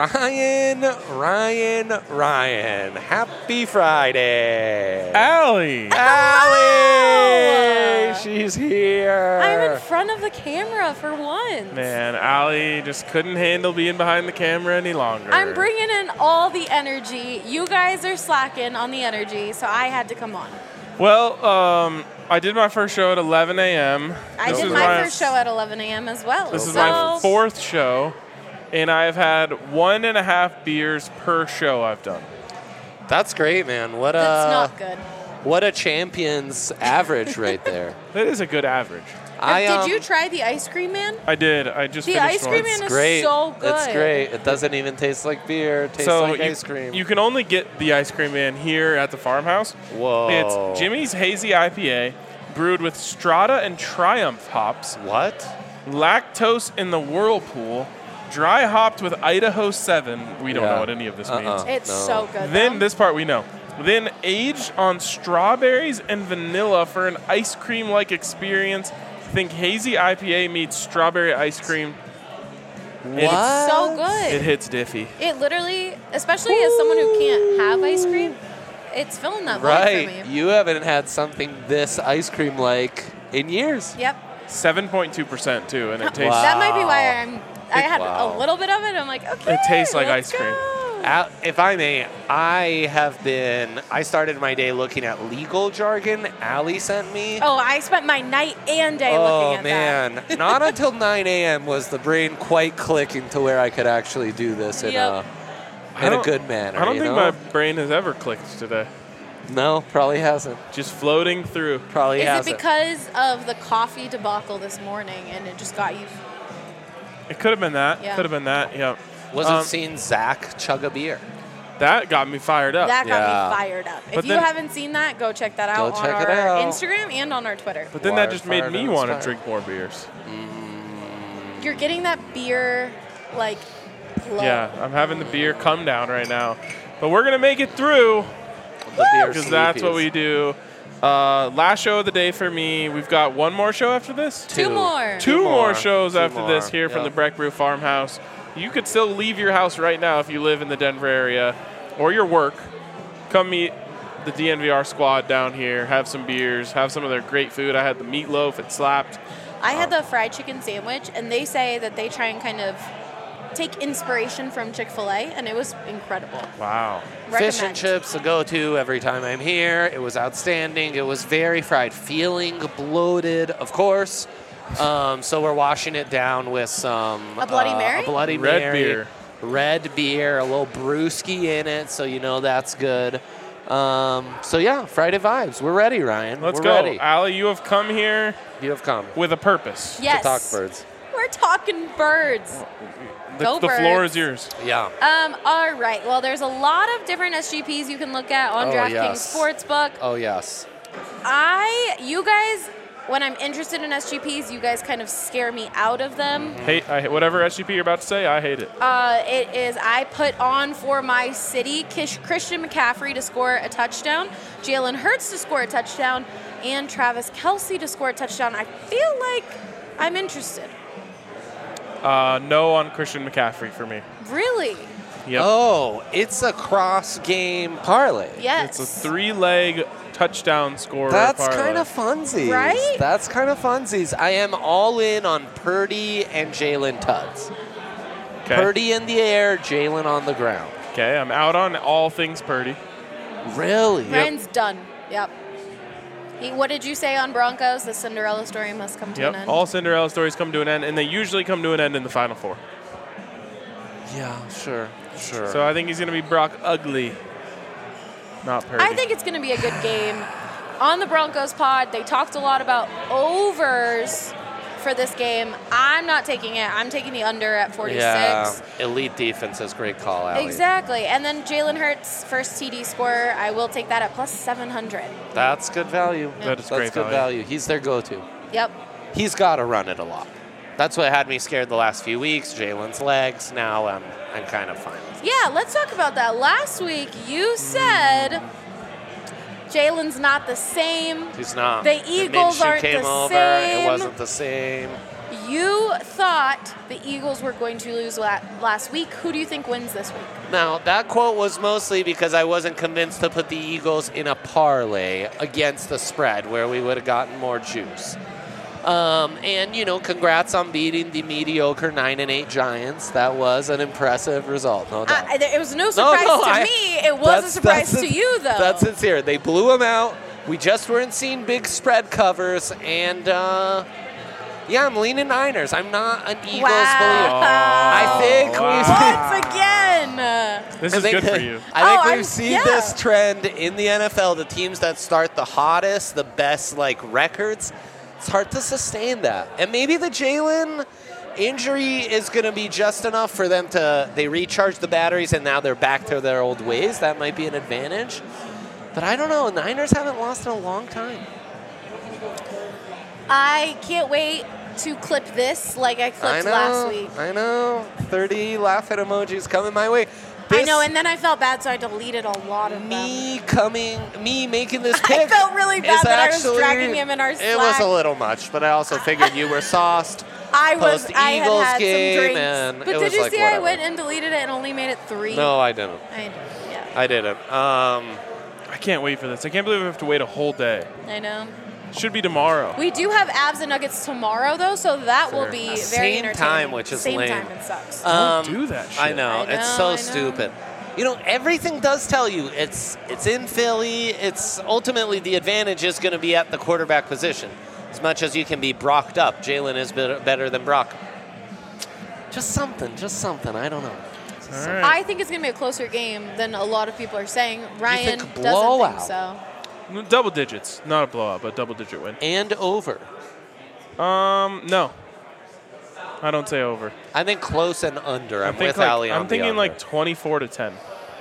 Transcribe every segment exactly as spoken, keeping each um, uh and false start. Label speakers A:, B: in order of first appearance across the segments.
A: Ryan, Ryan, Ryan. Happy Friday.
B: Allie.
A: Allie. She's here.
C: I'm in front of the camera for once.
B: Man, Allie just couldn't handle being behind the camera any longer.
C: I'm bringing in all the energy. You guys are slacking on the energy, so I had to come on.
B: Well, um, I did my first show at eleven a.m.
C: I
B: This
C: did
B: is
C: my first show at eleven a.m. as well.
B: This is
C: so
B: my fourth show, and I've had one and a half beers per show I've done.
A: That's great, man. What a
C: That's not good.
A: What a champion's average right there.
B: That is a good average.
A: I, um,
C: did you try the ice cream man?
B: I did. I just
C: The
B: finished
C: ice cream
B: one.
C: man is
A: great.
C: so good.
A: It's great. It doesn't even taste like beer. It tastes
B: so
A: like
B: you,
A: ice cream.
B: you can only get the ice cream man here at the farmhouse.
A: Whoa.
B: It's Jimmy's Hazy I P A, brewed with Strata and Triumph hops,
A: What?
B: lactose in the Whirlpool, dry hopped with Idaho seven. We don't
A: Yeah.
B: know what any of this
A: Uh-uh.
B: means.
C: It's
A: No.
C: so good.
B: Then
C: though.
B: this part we know. Then aged on strawberries and vanilla for an ice cream-like experience. Think Hazy I P A meets strawberry ice cream.
A: What?
B: It's
C: so good.
B: It hits diffy.
C: It literally, especially as someone who can't have ice cream, it's filling that void
A: Right.
C: for me.
A: You haven't had something this ice cream like in years.
C: Yep.
B: seven point two percent too, and it tastes
A: Wow.
C: That might be why I'm. I had
A: Wow.
C: a little bit of it. I'm like, okay.
B: It tastes like
C: let's
B: ice cream.
C: go.
A: Al- If I may, I have been, I started my day looking at legal jargon Allie sent me.
C: Oh, I spent my night and day
A: Oh,
C: looking at
A: man. Not until nine a.m. was the brain quite clicking to where I could actually do this in,
C: Yep.
A: a,
B: I
A: in a
B: don't-
A: good manner.
B: I don't
A: you
B: think
A: know?
B: my brain has ever clicked today.
A: No, probably hasn't.
B: Just floating through.
A: Probably
C: that. Is
A: hasn't.
C: it because of the coffee debacle this morning and it just got you?
B: It could have been that.
C: Yeah.
B: Could have been that. Yeah.
A: Wasn't
B: Um,
A: seeing Zach chug a beer.
B: That got me fired up.
C: That got
A: Yeah.
C: me fired up.
B: But
C: If you
B: then-
C: haven't seen that, go check that
A: Go
C: out on
A: check
C: our
A: it out.
C: Instagram and on our Twitter.
B: But then
A: Wired,
B: that just made
A: fired,
B: me
A: and
B: want to
A: inspired.
B: drink more beers.
C: You're getting that beer, like, glow.
B: Yeah, I'm having the beer come down right now. But we're going to make it through
A: The beer
B: because that's what
A: sleepies.
B: we do. Uh, last show of the day for me. We've got one more show after this?
C: Two,
A: Two.
C: more.
B: Two,
A: Two
B: more,
A: more.
B: shows
A: Two
B: after
A: more.
B: this here from the
A: Yep.
B: Breck Brew Farmhouse. You could still leave your house right now if you live in the Denver area or your work. Come meet the D N V R squad down here, have some beers, have some of their great food. I had the meatloaf, it slapped.
C: I had the fried chicken sandwich, and they say that they try and kind of take inspiration from Chick-fil-A, and it was incredible.
B: Wow.
A: Fish and
C: Recommend.
A: chips, a go-to every time I'm here. It was outstanding. It was very fried, feeling bloated, of course. Um, so we're washing it down with some
C: A Bloody
A: uh,
C: Mary?
A: a Bloody
B: Red
A: Mary,
B: beer.
A: red beer, a little brewski in it, so you know that's good. Um, so yeah, Friday vibes. We're ready, Ryan.
B: Let's
A: We're
B: go.
A: ready.
B: Allie, you have come here
A: You have come
B: with a purpose.
C: Yes.
A: to talk birds.
C: We're talking birds.
B: The,
C: Go
B: the floor
C: Birds.
B: is yours.
A: Yeah.
C: Um, all right. Well, there's a lot of different S G Ps you can look at on
A: Oh,
C: DraftKings
A: yes.
C: Sportsbook.
A: Oh yes.
C: I, you guys, when I'm interested in S G Ps, you guys kind of scare me out of them.
B: Hate I, whatever S G P you're about to say, I hate it.
C: Uh, it is I put on for my city Kish, Christian McCaffrey to score a touchdown, Jalen Hurts to score a touchdown, and Travis Kelce to score a touchdown. I feel like I'm interested.
B: Uh, no on Christian McCaffrey for me.
C: Really?
B: Yep.
A: Oh, it's a cross-game parlay.
C: Yes.
B: It's a three-leg touchdown scorer.
A: That's
B: parlay.
A: kind of funsies.
C: Right?
A: That's kind of funsies. I am all in on Purdy and Jalen Tuds.
B: Okay.
A: Purdy in the air, Jalen on the ground.
B: Okay, I'm out on all things Purdy.
A: Really?
C: Ryan's done. Yep. He, what did you say on Broncos? The Cinderella story must come to an
B: Yep.
C: end.
B: All Cinderella stories come to an end, and they usually come to an end in the Final Four.
A: Yeah, sure, sure.
B: So I think he's going to be Brock Ugly, not Purdy.
C: I think it's going to be a good game. On the Broncos pod, they talked a lot about overs for this game. I'm not taking it. I'm taking the under at forty-six.
A: yeah, elite defenses, great call, Allie.
C: Exactly. And then Jalen Hurts, first T D scorer, I will take that at plus seven hundred.
A: That's good value.
B: That is
A: That's
B: great
A: good
B: value.
A: value. He's their go-to.
C: Yep.
A: He's got to run it a lot. That's what had me scared the last few weeks. Jalen's legs. Now I'm, I'm kind of fine with it.
C: Yeah, let's talk about that. Last week, you said Jalen's not the same.
A: He's not.
C: The Eagles
A: Minshew
C: aren't
A: came
C: the
A: over.
C: same.
A: It wasn't the same.
C: You thought the Eagles were going to lose la- last week. Who do you think wins this week?
A: Now, that quote was mostly because I wasn't convinced to put the Eagles in a parlay against the spread where we would have gotten more juice. Um, and, you know, congrats on beating the mediocre nine and eight Giants. That was an impressive result, no doubt.
C: I, it was no surprise
A: no,
C: to
A: I-
C: me. It was a surprise to you, though.
A: That's sincere. They blew them out. We just weren't seeing big spread covers. And, uh, yeah, I'm leaning Niners. I'm not an Eagles believer.
C: Wow.
A: I think
C: Once again.
B: This
A: I
B: is
A: think-
B: good for you.
A: I think
C: Oh,
A: we've
C: I'm-
A: seen
C: yeah.
A: this trend in the N F L. The teams that start the hottest, the best like records, it's hard to sustain that. And maybe the Jalen injury is going to be just enough for them to they recharge the batteries and now they're back to their old ways. That might be an advantage. But I don't know. Niners haven't lost in a long time.
C: I can't wait to clip this like I
A: I
C: clipped
A: know.
C: last week.
A: I know. thirty laughing emojis coming my way.
C: I
A: This-
C: know, and then I felt bad, so I deleted a lot of them.
A: Me coming, me making this
C: I
A: pick.
C: felt really bad
A: is
C: that I was
A: actually-
C: dragging him in our
A: It was
C: Slack.
A: a little much, but I also figured you were sauced.
C: I was.
A: post
C: I had
A: Eagles
C: had
A: game,
C: some drinks.
A: and
C: But
A: it
C: did
A: was
C: you
A: like,
C: see I
A: whatever.
C: went and deleted it and only made it three?
A: No, I didn't.
C: I, yeah,
A: I didn't. Um,
B: I can't wait for this. I can't believe we have to wait a whole day.
C: I know.
B: Should be tomorrow.
C: We do have abs and nuggets tomorrow, though, so that will
A: Fair.
C: be very
A: Same
C: entertaining.
A: time, which is
C: Same
A: lame.
C: time, it sucks.
A: um,
B: do that
A: I
B: shit.
A: know.
C: I
A: It's
C: know,
A: so
C: I know.
A: stupid. You know, everything does tell you it's it's in Philly. It's ultimately the advantage is going to be at the quarterback position. As much as you can be Brocked up, Jalen is better, better than Brock. Just something, just something. I don't know.
B: All right.
C: I think it's going to be a closer game than a lot of people are saying. Ryan
A: think
C: doesn't
A: blowout?
C: think so.
B: Double digits. Not a blowout, but double digit win.
A: And over.
B: Um, no. I don't say over.
A: I think close and under. I'm
B: I think
A: with
B: like,
A: Ali on
B: I'm
A: the
B: thinking
A: under.
B: like twenty-four to ten.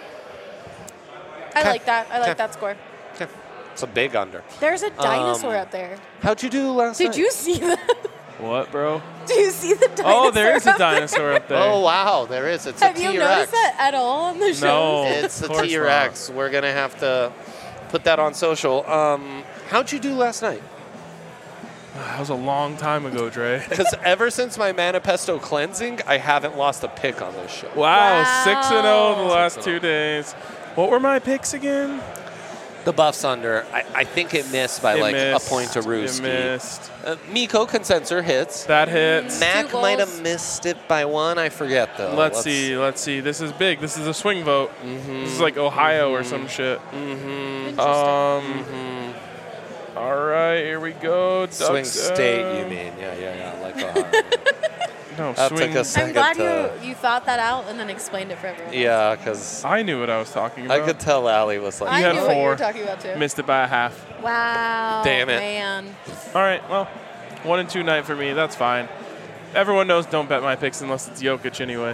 C: I
A: Okay.
C: like that. I like
A: Okay.
C: that score.
A: Okay. It's a big under.
C: There's a dinosaur
A: Um,
C: up there.
A: How'd you do last
C: Did
A: night?
C: you see that?
B: What, bro?
C: Do you see the dinosaur?
B: Oh, there is a
C: up there?
B: dinosaur up there.
A: Oh, wow. There is. It's
C: Have
A: a
C: you
A: T-Rex.
C: noticed that at all on the show?
B: No.
A: It's a
B: Of course
A: T-Rex. We're going to have to put that on social. Um, how'd you do last night?
B: That was a long time ago, Dre.
A: Because ever since my Manifesto cleansing, I haven't lost a pick on this show.
B: Wow,
C: Wow.
B: six and zero the last
A: Six
B: two
A: and
B: days. What were my picks again?
A: The Buffs under. I, I think it missed by
B: It
A: like
B: missed.
A: a point to
B: It
A: Rooski.
B: missed.
A: Uh, Miko Consensor hits.
B: That hits.
A: Mac
C: Two
A: might have
C: goals.
A: missed it by one. I forget though.
B: Let's see. Let's see. This is big. This is a swing vote.
A: Mm-hmm.
B: This is like Ohio or some shit.
C: Interesting.
B: Um. All right, here we go.
A: Swing
B: Ducks,
A: state,
B: uh,
A: you mean? Yeah, yeah, yeah. Like Ohio.
B: No,
A: That
B: swing.
A: took us-
C: I'm glad
A: to-
C: you, you thought that out and then explained it for everyone.
A: yeah, because
B: I knew what I was talking
A: I
B: about.
A: could tell Allie was like,
C: I
B: You had
C: knew what you
B: four.
C: were talking about too.
B: Missed it by a half.
C: Wow.
A: Damn it.
C: Man.
B: All right, well, one and two night for me. That's fine. Everyone knows don't bet my picks unless it's Jokic anyway.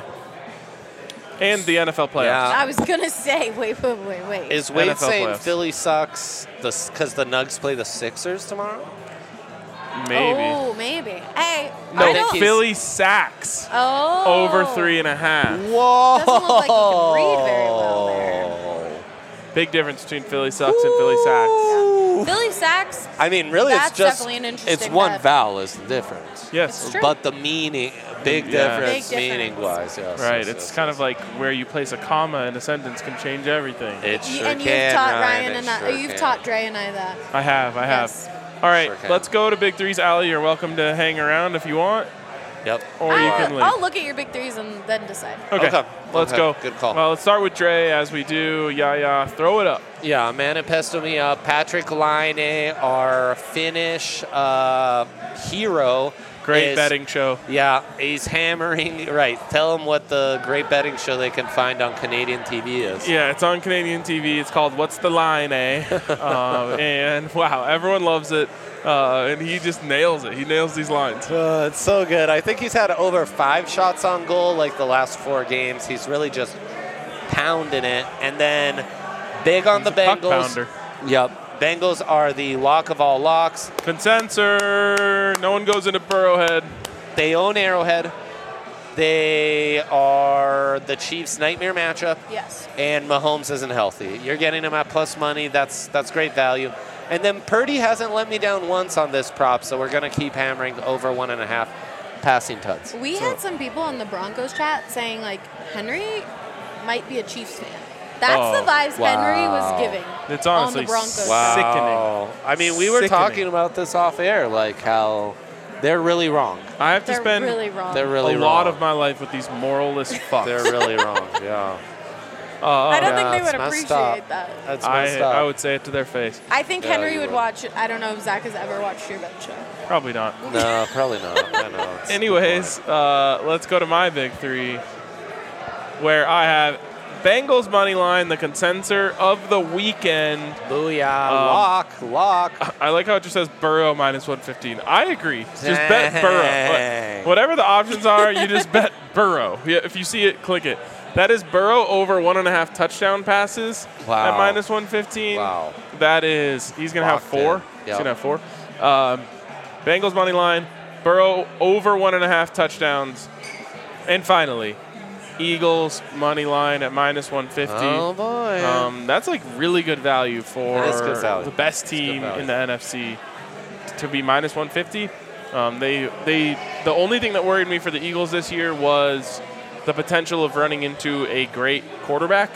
B: And the N F L playoffs.
A: Yeah.
C: I was gonna say, wait, wait, wait, wait.
A: is Wade
B: N F L
A: saying
B: playoffs.
A: Philly sucks because the Nugs play the Sixers tomorrow?
B: Maybe.
C: Oh, maybe. Hey,
B: no,
C: I
A: think
C: don't.
A: he's-
B: Philly sacks
C: Oh.
B: over three and a half.
A: Whoa!
C: Doesn't look like he can read very well there.
B: Big difference between Philly sucks and Philly sacks.
C: Philly sacks.
A: I mean, really,
C: That's
A: it's just
C: definitely an interesting
A: it's one
C: bet.
A: vowel is the difference.
B: Yes.
C: It's true.
A: But the meaning, big
B: Yeah.
A: difference,
C: Big difference.
A: meaning wise, yes.
B: Right.
A: yes,
B: It's
A: yes,
B: kind
A: yes.
B: of like where you place a comma in a sentence can change everything.
A: It
C: Y-
A: sure
C: and you've
A: can,
C: taught
A: Ryan,
C: Ryan
A: it
C: and I,
A: sure
C: you've
A: can.
C: taught Dre and I that.
B: I have. I have.
C: Yes.
B: All right.
A: Sure can.
B: Let's go to Big Threes. Allie, you're welcome to hang around if you want,
A: Yep.
B: or you
C: I'll,
B: can leave.
C: I'll look at your big threes and then decide.
B: Okay.
A: Okay.
B: Let's
A: Okay.
B: go.
A: Good call.
B: Well, let's start with Dre as we do. Yeah, yeah. Throw it up.
A: Yeah, Manifesto me up. Patrick Laine, our Finnish uh, hero.
B: Great
A: is-
B: betting show.
A: Yeah, he's hammering. Right. Tell them what the great betting show they can find on Canadian T V is.
B: Yeah, it's on Canadian T V. It's called What's the Line, eh? uh, and wow, everyone loves it. Uh, and he just nails it. He nails these lines.
A: Uh, it's so good. I think he's had over five shots on goal like the last four games. He's really just pounding it. And then big on
B: He's
A: the
B: a puck
A: Bengals.
B: pounder.
A: Yep. Bengals are the lock of all locks.
B: Consensor. No one goes into Burrowhead.
A: They own Arrowhead. They are the Chiefs' nightmare matchup.
C: Yes.
A: And Mahomes isn't healthy. You're getting him at plus money. That's that's great value. And then Purdy hasn't let me down once on this prop, so we're going to keep hammering over one and a half. passing tuds.
C: We
B: So-
C: had some people in the Broncos chat saying like Henry might be a Chiefs fan. That's
B: Oh,
C: the vibes Henry was
A: wow.
C: giving.
B: It's
C: on
B: honestly
C: the Broncos.
B: wow.
C: chat.
B: Sickening.
A: I mean, we were
B: Sickening.
A: talking about this off air, like how they're really wrong.
B: I have to
C: They're
B: spend
C: really wrong.
A: They're really
B: a
A: wrong.
B: lot of my life with these moralless fucks.
A: They're really wrong. Yeah.
B: Uh,
C: I don't
A: Yeah,
C: think they
A: it's
C: would
A: messed
C: appreciate
A: up.
C: that.
A: That's
B: I,
A: messed up.
B: I would say it to their face.
C: I think
A: Yeah,
C: Henry
A: you
C: would
A: would.
C: watch it. I don't know if Zach has ever watched your bet show.
B: Probably not.
A: No, probably not. I know. It's
B: Anyways, uh, let's go to my big three, where I have Bengals money line, the consensus of the weekend.
A: Booyah.
B: Um,
A: lock. Lock.
B: I like how it just says Burrow minus one fifteen. I agree. Just bet Burrow.
A: Dang.
B: What- Whatever the options are, you just bet Burrow. Yeah, if you see it, click it. That is Burrow over one and a half touchdown passes
A: Wow.
B: at minus one fifteen.
A: Wow.
B: That is, he's going to have
A: Locked
B: four.
A: in.
B: He's
A: Yep.
B: going to have four. Um, Bengals money line, Burrow over one and a half touchdowns. And finally, Eagles money line at minus one fifty.
A: Oh, boy.
B: Um, that's like really good value for
A: That is good value.
B: the best
A: That's good
B: team
A: value.
B: in the N F C to be minus one fifty. Um, they they the only thing that worried me for the Eagles this year was the potential of running into a great quarterback,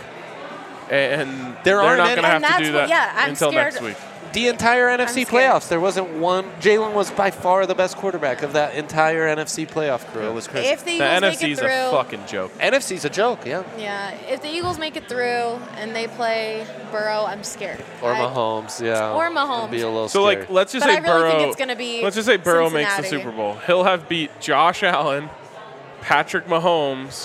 B: and
A: There
B: they're
A: aren't
B: not
A: any-
B: going to have
C: And
B: to
C: that's
B: do
C: what-
B: that
C: yeah, I'm
B: until
C: scared-
B: next week.
A: The entire N F C
C: I'm scared.
A: playoffs, there wasn't one. Jalen was by far the best quarterback of that entire N F C playoff crew. It was crazy.
C: If the
B: The
C: Eagles
B: N F
C: make
B: C
C: it
B: is
C: through,
B: a fucking joke.
A: N F C's a joke, yeah.
C: yeah, if the Eagles make it through and they play Burrow, I'm scared.
A: Or
C: I-
A: Mahomes, yeah.
C: Or Mahomes.
A: It'd be a little
B: So
A: scary.
B: like, let's just
C: But
B: say
C: I really
B: Burrow.
C: think it's going to be
B: let's just say Burrow makes the
C: Cincinnati.
B: Super Bowl. He'll have beat Josh Allen, Patrick Mahomes,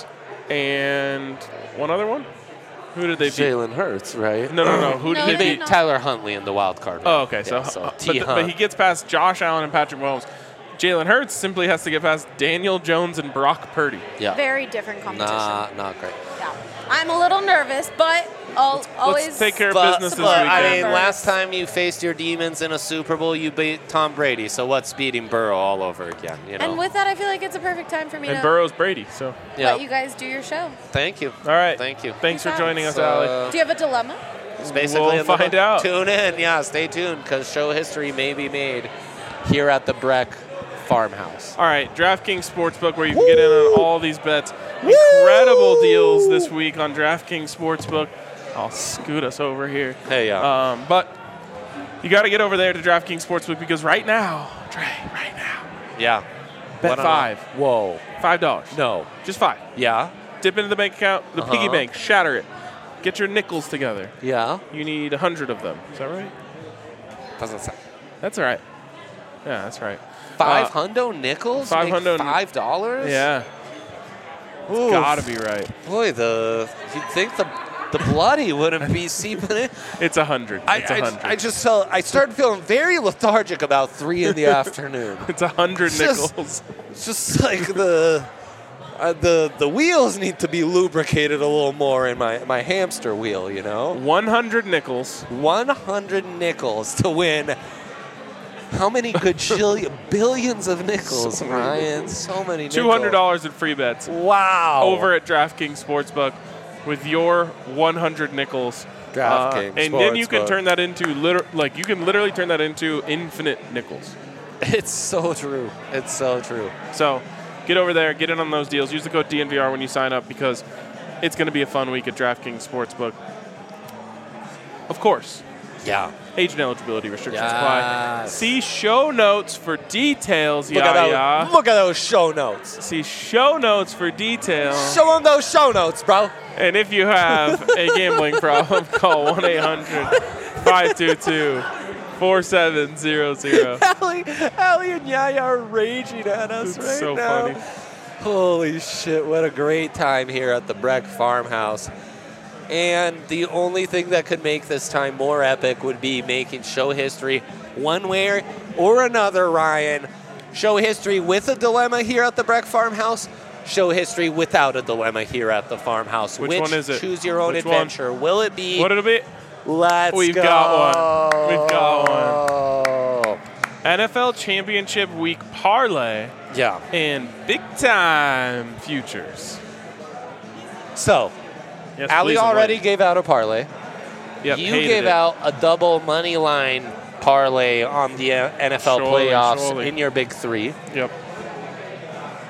B: and one other one. Who did they beat?
A: Jalen Hurts, right?
B: No, no, no. Who
C: No,
B: did
A: He
B: they
C: no,
B: beat?
A: beat Tyler Huntley in the wild card round.
B: Oh, okay. So,
A: Yeah, so
B: uh,
A: T.
B: but, but he gets past Josh Allen and Patrick Mahomes. Jalen Hurts simply has to get past Daniel Jones and Brock Purdy.
A: yeah.
C: Very different competition.
A: Not, not great.
C: Yeah. I'm a little nervous, but I'll always
B: Let's take care of
A: But,
B: business this
A: but,
B: weekend.
A: I mean,
C: weekend.
A: last time you faced your demons in a Super Bowl, you beat Tom Brady. So what's beating Burrow all over again? You know.
C: And with that, I feel like it's a perfect time for me
B: and
C: to
B: Burrow's Brady. So,
A: yeah.
C: let you guys do your show.
A: Thank you.
B: all right.
A: Thank you.
B: Thanks for
C: Thanks.
B: joining us,
A: So,
B: Allie.
C: Do you have a dilemma?
A: It's basically
B: We'll
A: in the
B: find
A: book.
B: out.
A: Tune in, yeah. Stay tuned because show history may be made here at the Breck Farmhouse.
B: All right, DraftKings Sportsbook, where you can get in on all these bets. Incredible deals this week on DraftKings Sportsbook. I'll scoot us over here.
A: Hey, yeah.
B: Um, but you got to get over there to DraftKings Sportsbook because right now, Dre, right now,
A: yeah.
B: bet
A: What on-
B: five.
A: Whoa.
B: Five dollars.
A: No.
B: Just five.
A: Yeah.
B: Dip into the bank account, the piggy
A: Uh-huh.
B: bank, shatter it. Get your nickels together.
A: Yeah.
B: You need a hundred of them. Is that right?
A: Doesn't sound.
B: That's all right. Yeah, that's right.
A: Five
B: Uh,
A: hundo nickels?
B: five
A: Make
B: hundo-
A: Five dollars?
B: Yeah,
A: Oof.
B: gotta be right.
A: Boy, the you'd think the the bloody wouldn't be seeping in.
B: It's a hundred.
A: I,
B: It's a
A: I,
B: hundred.
A: I just felt I started feeling very lethargic about three in the afternoon.
B: It's a hundred
A: It's just-
B: nickels.
A: It's just like the uh, the the wheels need to be lubricated a little more in my my hamster wheel. You know,
B: One hundred nickels.
A: one hundred nickels to win. How many gajillion billions of nickels,
B: So many
A: Ryan? So many nickels.
B: Two hundred dollars in free bets
A: Wow.
B: over at DraftKings Sportsbook with your one hundred nickels.
A: DraftKings
B: Uh, and then you can
A: Sportsbook.
B: turn that into liter- like you can literally turn that into infinite nickels.
A: It's so true. It's so true.
B: So get over there, get in on those deals. Use the code D N V R when you sign up because it's going to be a fun week at DraftKings Sportsbook. Of course,
A: Yeah.
B: age and eligibility restrictions apply.
A: Yes.
B: See show notes for details.
A: Look
B: yeah,
A: at
B: yeah.
A: those. Look at those show notes.
B: See show notes for details.
A: Show them those show notes, bro.
B: And if you have a gambling problem, call one eight hundred five two two four seven zero zero.
A: Allie, Allie and Yaya are raging at us
B: It's
A: right
B: so
A: now.
B: funny.
A: Holy shit, what a great time here at the Breck Farmhouse. And the only thing that could make this time more epic would be making show history one way or another, Ryan. Show history with a dilemma here at the Breck Farmhouse. Show history without a dilemma here at the farmhouse.
B: Which one is it?
A: Choose your own
B: Which one?
A: adventure. Will it be?
B: What it'll be?
A: Let's
B: We've
A: go.
B: got one. We've got one. N F L Championship Week parlay
A: Yeah.
B: and big time futures.
A: So,
B: Yes,
A: Allie
B: please, I'm
A: already
B: waiting.
A: gave out a parlay.
B: Yep,
A: you
B: hated
A: gave
B: it.
A: out a double money line parlay on the uh, N F L
B: Surely,
A: playoffs
B: surely.
A: in your big three.
B: Yep.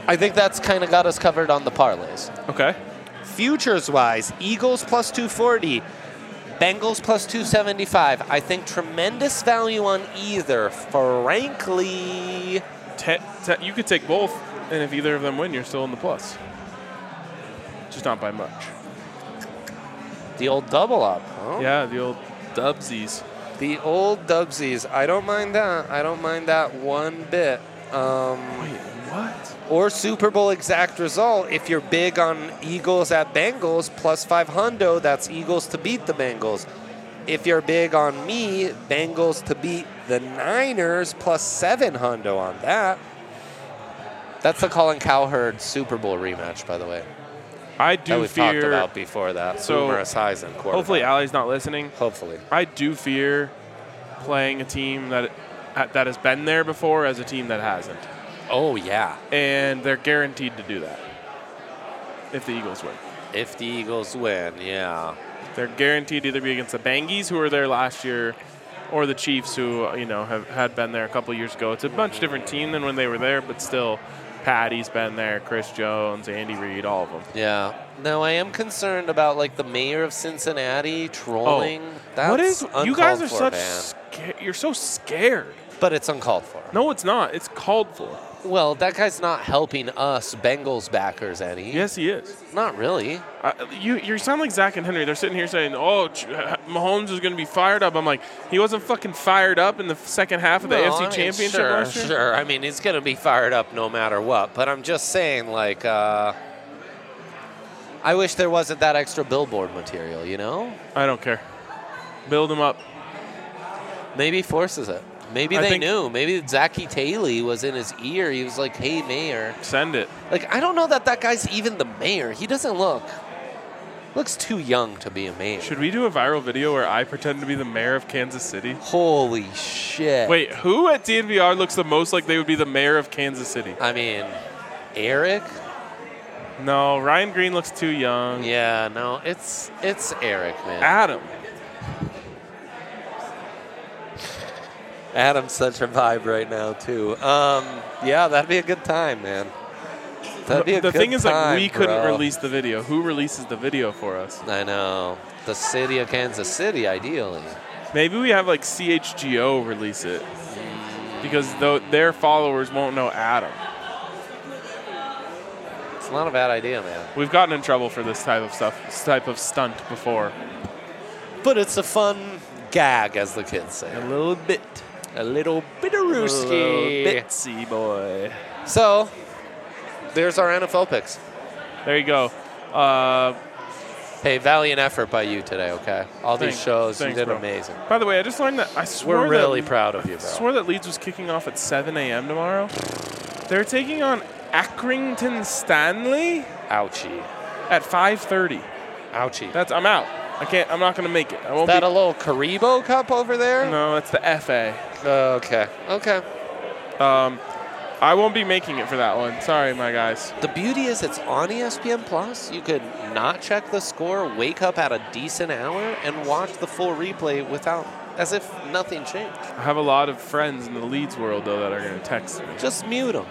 A: I think that's kind of got us covered on the parlays.
B: Okay.
A: Futures-wise, Eagles plus two forty, Bengals plus two seventy-five. I think tremendous value on either, frankly.
B: Te- te- you could take both, and if either of them win, you're still in the plus. Just not by much.
A: The old double up, huh?
B: Yeah, the old dubsies.
A: The old dubsies. I don't mind that. I don't mind that one bit. Um,
B: Wait, what?
A: or Super Bowl exact result. If you're big on Eagles at Bengals, plus five hundo, that's Eagles to beat the Bengals. If you're big on me, Bengals to beat the Niners, plus seven hundo on that. That's the Colin Cowherd Super Bowl rematch, by the way.
B: I do
A: that we've
B: fear.
A: talked about before that.
B: So,
A: Boomer Esiason quarterback.
B: Hopefully, Allie's not listening.
A: Hopefully.
B: I do fear playing a team that that has been there before as a team that hasn't.
A: Oh, yeah.
B: And they're guaranteed to do that if the Eagles win.
A: If the Eagles win, yeah.
B: They're guaranteed to either be against the Bangies, who were there last year, or the Chiefs, who you know have had been there a couple years ago. It's a much different team than when they were there, but still, Patty's been there, Chris Jones, Andy Reid, all of them.
A: Yeah. Now, I am concerned about, like, the mayor of Cincinnati trolling.
B: Oh,
A: That's
B: what is?
A: uncalled
B: You guys are
A: for,
B: such.
A: man.
B: Sca- you're so scared.
A: But it's uncalled for.
B: No, it's not. It's called for.
A: Well, that guy's not helping us Bengals backers any.
B: Yes, he is.
A: Not really.
B: Uh, you you sound like Zach and Henry. They're sitting here saying, "Oh, Ch- Mahomes is going to be fired up." I'm like, he wasn't fucking fired up in the second half of the
A: No,
B: A F C
A: I mean,
B: Championship
A: sure,
B: last year.
A: Sure, I mean, he's going to be fired up no matter what. But I'm just saying, like, uh, I wish there wasn't that extra billboard material, you know?
B: I don't care. Build him up.
A: Maybe forces it. Maybe
B: I
A: they
B: think-
A: knew. Maybe Zachy Taylor was in his ear. He was like, hey, mayor.
B: Send it.
A: Like, I don't know that that guy's even the mayor. He doesn't look, looks too young to be a mayor.
B: Should we do a viral video where I pretend to be the mayor of Kansas City?
A: Holy shit.
B: Wait, who at D N V R looks the most like they would be the mayor of Kansas City?
A: I mean, Eric?
B: No, Ryan Green looks too young.
A: Yeah, no, it's it's Eric, man.
B: Adam.
A: Adam's such a vibe right now, too. Um, yeah, that'd be a good time, man. That'd be a
B: the
A: good
B: thing is, like,
A: time,
B: we couldn't
A: bro.
B: release the video. Who releases the video for us?
A: I know. The city of Kansas City, ideally.
B: Maybe we have like C H G O release it because though their followers won't know Adam.
A: It's not a bad idea, man.
B: We've gotten in trouble for this type of stuff, this type of stunt before.
A: But it's a fun gag, as the kids say.
B: A little bit.
A: A little bit of
B: A little
A: rooski.
B: bitsy boy.
A: So, there's our N F L picks.
B: There you go. Uh,
A: Hey, valiant effort by you today, okay? All these
B: Thanks.
A: shows,
B: Thanks,
A: you did
B: bro.
A: amazing.
B: by the way, I just learned that I swore
A: We're really
B: that,
A: proud of you,
B: I
A: bro.
B: swore that Leeds was kicking off at seven a.m. tomorrow. They're taking on Accrington Stanley
A: Ouchie.
B: at five thirty.
A: Ouchie.
B: That's I'm out. I can't. I'm not going to make it. I won't
A: Is that
B: be.
A: a little Karibo cup over there?
B: No, it's the F A.
A: Okay. Okay.
B: Um, I won't be making it for that one. Sorry, my guys.
A: The beauty is it's on E S P N Plus. You could not check the score, wake up at a decent hour, and watch the full replay without, as if nothing changed.
B: I have a lot of friends in the Leeds world though that are going to text me.
A: Just mute them.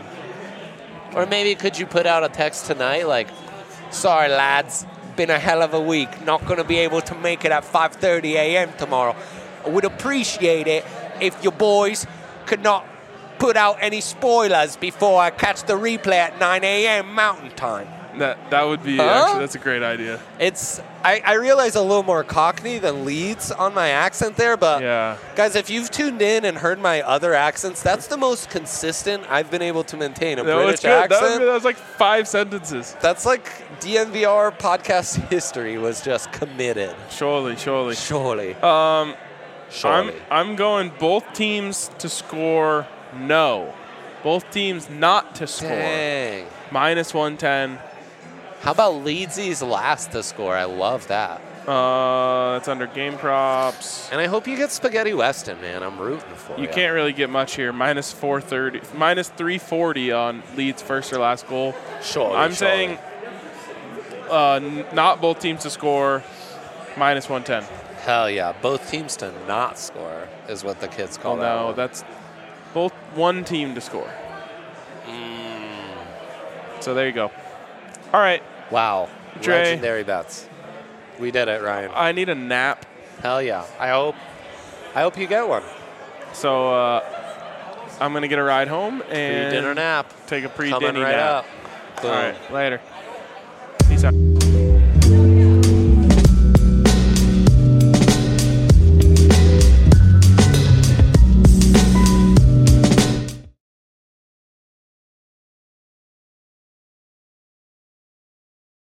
A: Or maybe could you put out a text tonight like, sorry lads, been a hell of a week. Not going to be able to make it at five thirty a.m. tomorrow. I would appreciate it if your boys could not put out any spoilers before I catch the replay at nine a.m. Mountain Time.
B: That that would be
A: Huh?
B: actually that's a great idea.
A: It's I, I realize a little more Cockney than Leeds on my accent there, but
B: Yeah.
A: guys, if you've tuned in and heard my other accents, that's the most consistent I've been able to maintain a
B: That was
A: British
B: good. That was,
A: accent.
B: that was like five sentences.
A: That's like D N V R podcast history was just committed.
B: Surely, surely.
A: Surely.
B: Um,
A: Surely.
B: I'm I'm going both teams to score no. Both teams not to score.
A: Dang.
B: Minus one ten.
A: How about Leedsy's last to score? I love that.
B: Uh, it's under game props.
A: And I hope you get Spaghetti Weston, man. I'm rooting for you.
B: You can't really get much here. Minus four thirty, minus three forty on Leeds' first or last goal.
A: Surely.
B: I'm
A: surely.
B: saying uh, n- not both teams to score. Minus one ten.
A: Hell yeah. Both teams to not score is what the kids call
B: Oh
A: that
B: no,
A: one.
B: that's both one team to score.
A: Mm.
B: So there you go. All right.
A: Wow.
B: Dre.
A: Legendary bets. We did it, Ryan.
B: I need a nap.
A: Hell yeah. I hope I hope you get one.
B: So uh, I'm going to get a ride home and
A: Pre-dinner nap.
B: take a
A: Coming
B: pre-dinner
A: right
B: nap.
A: up.
B: All
A: Boom.
B: right. Later. Peace out.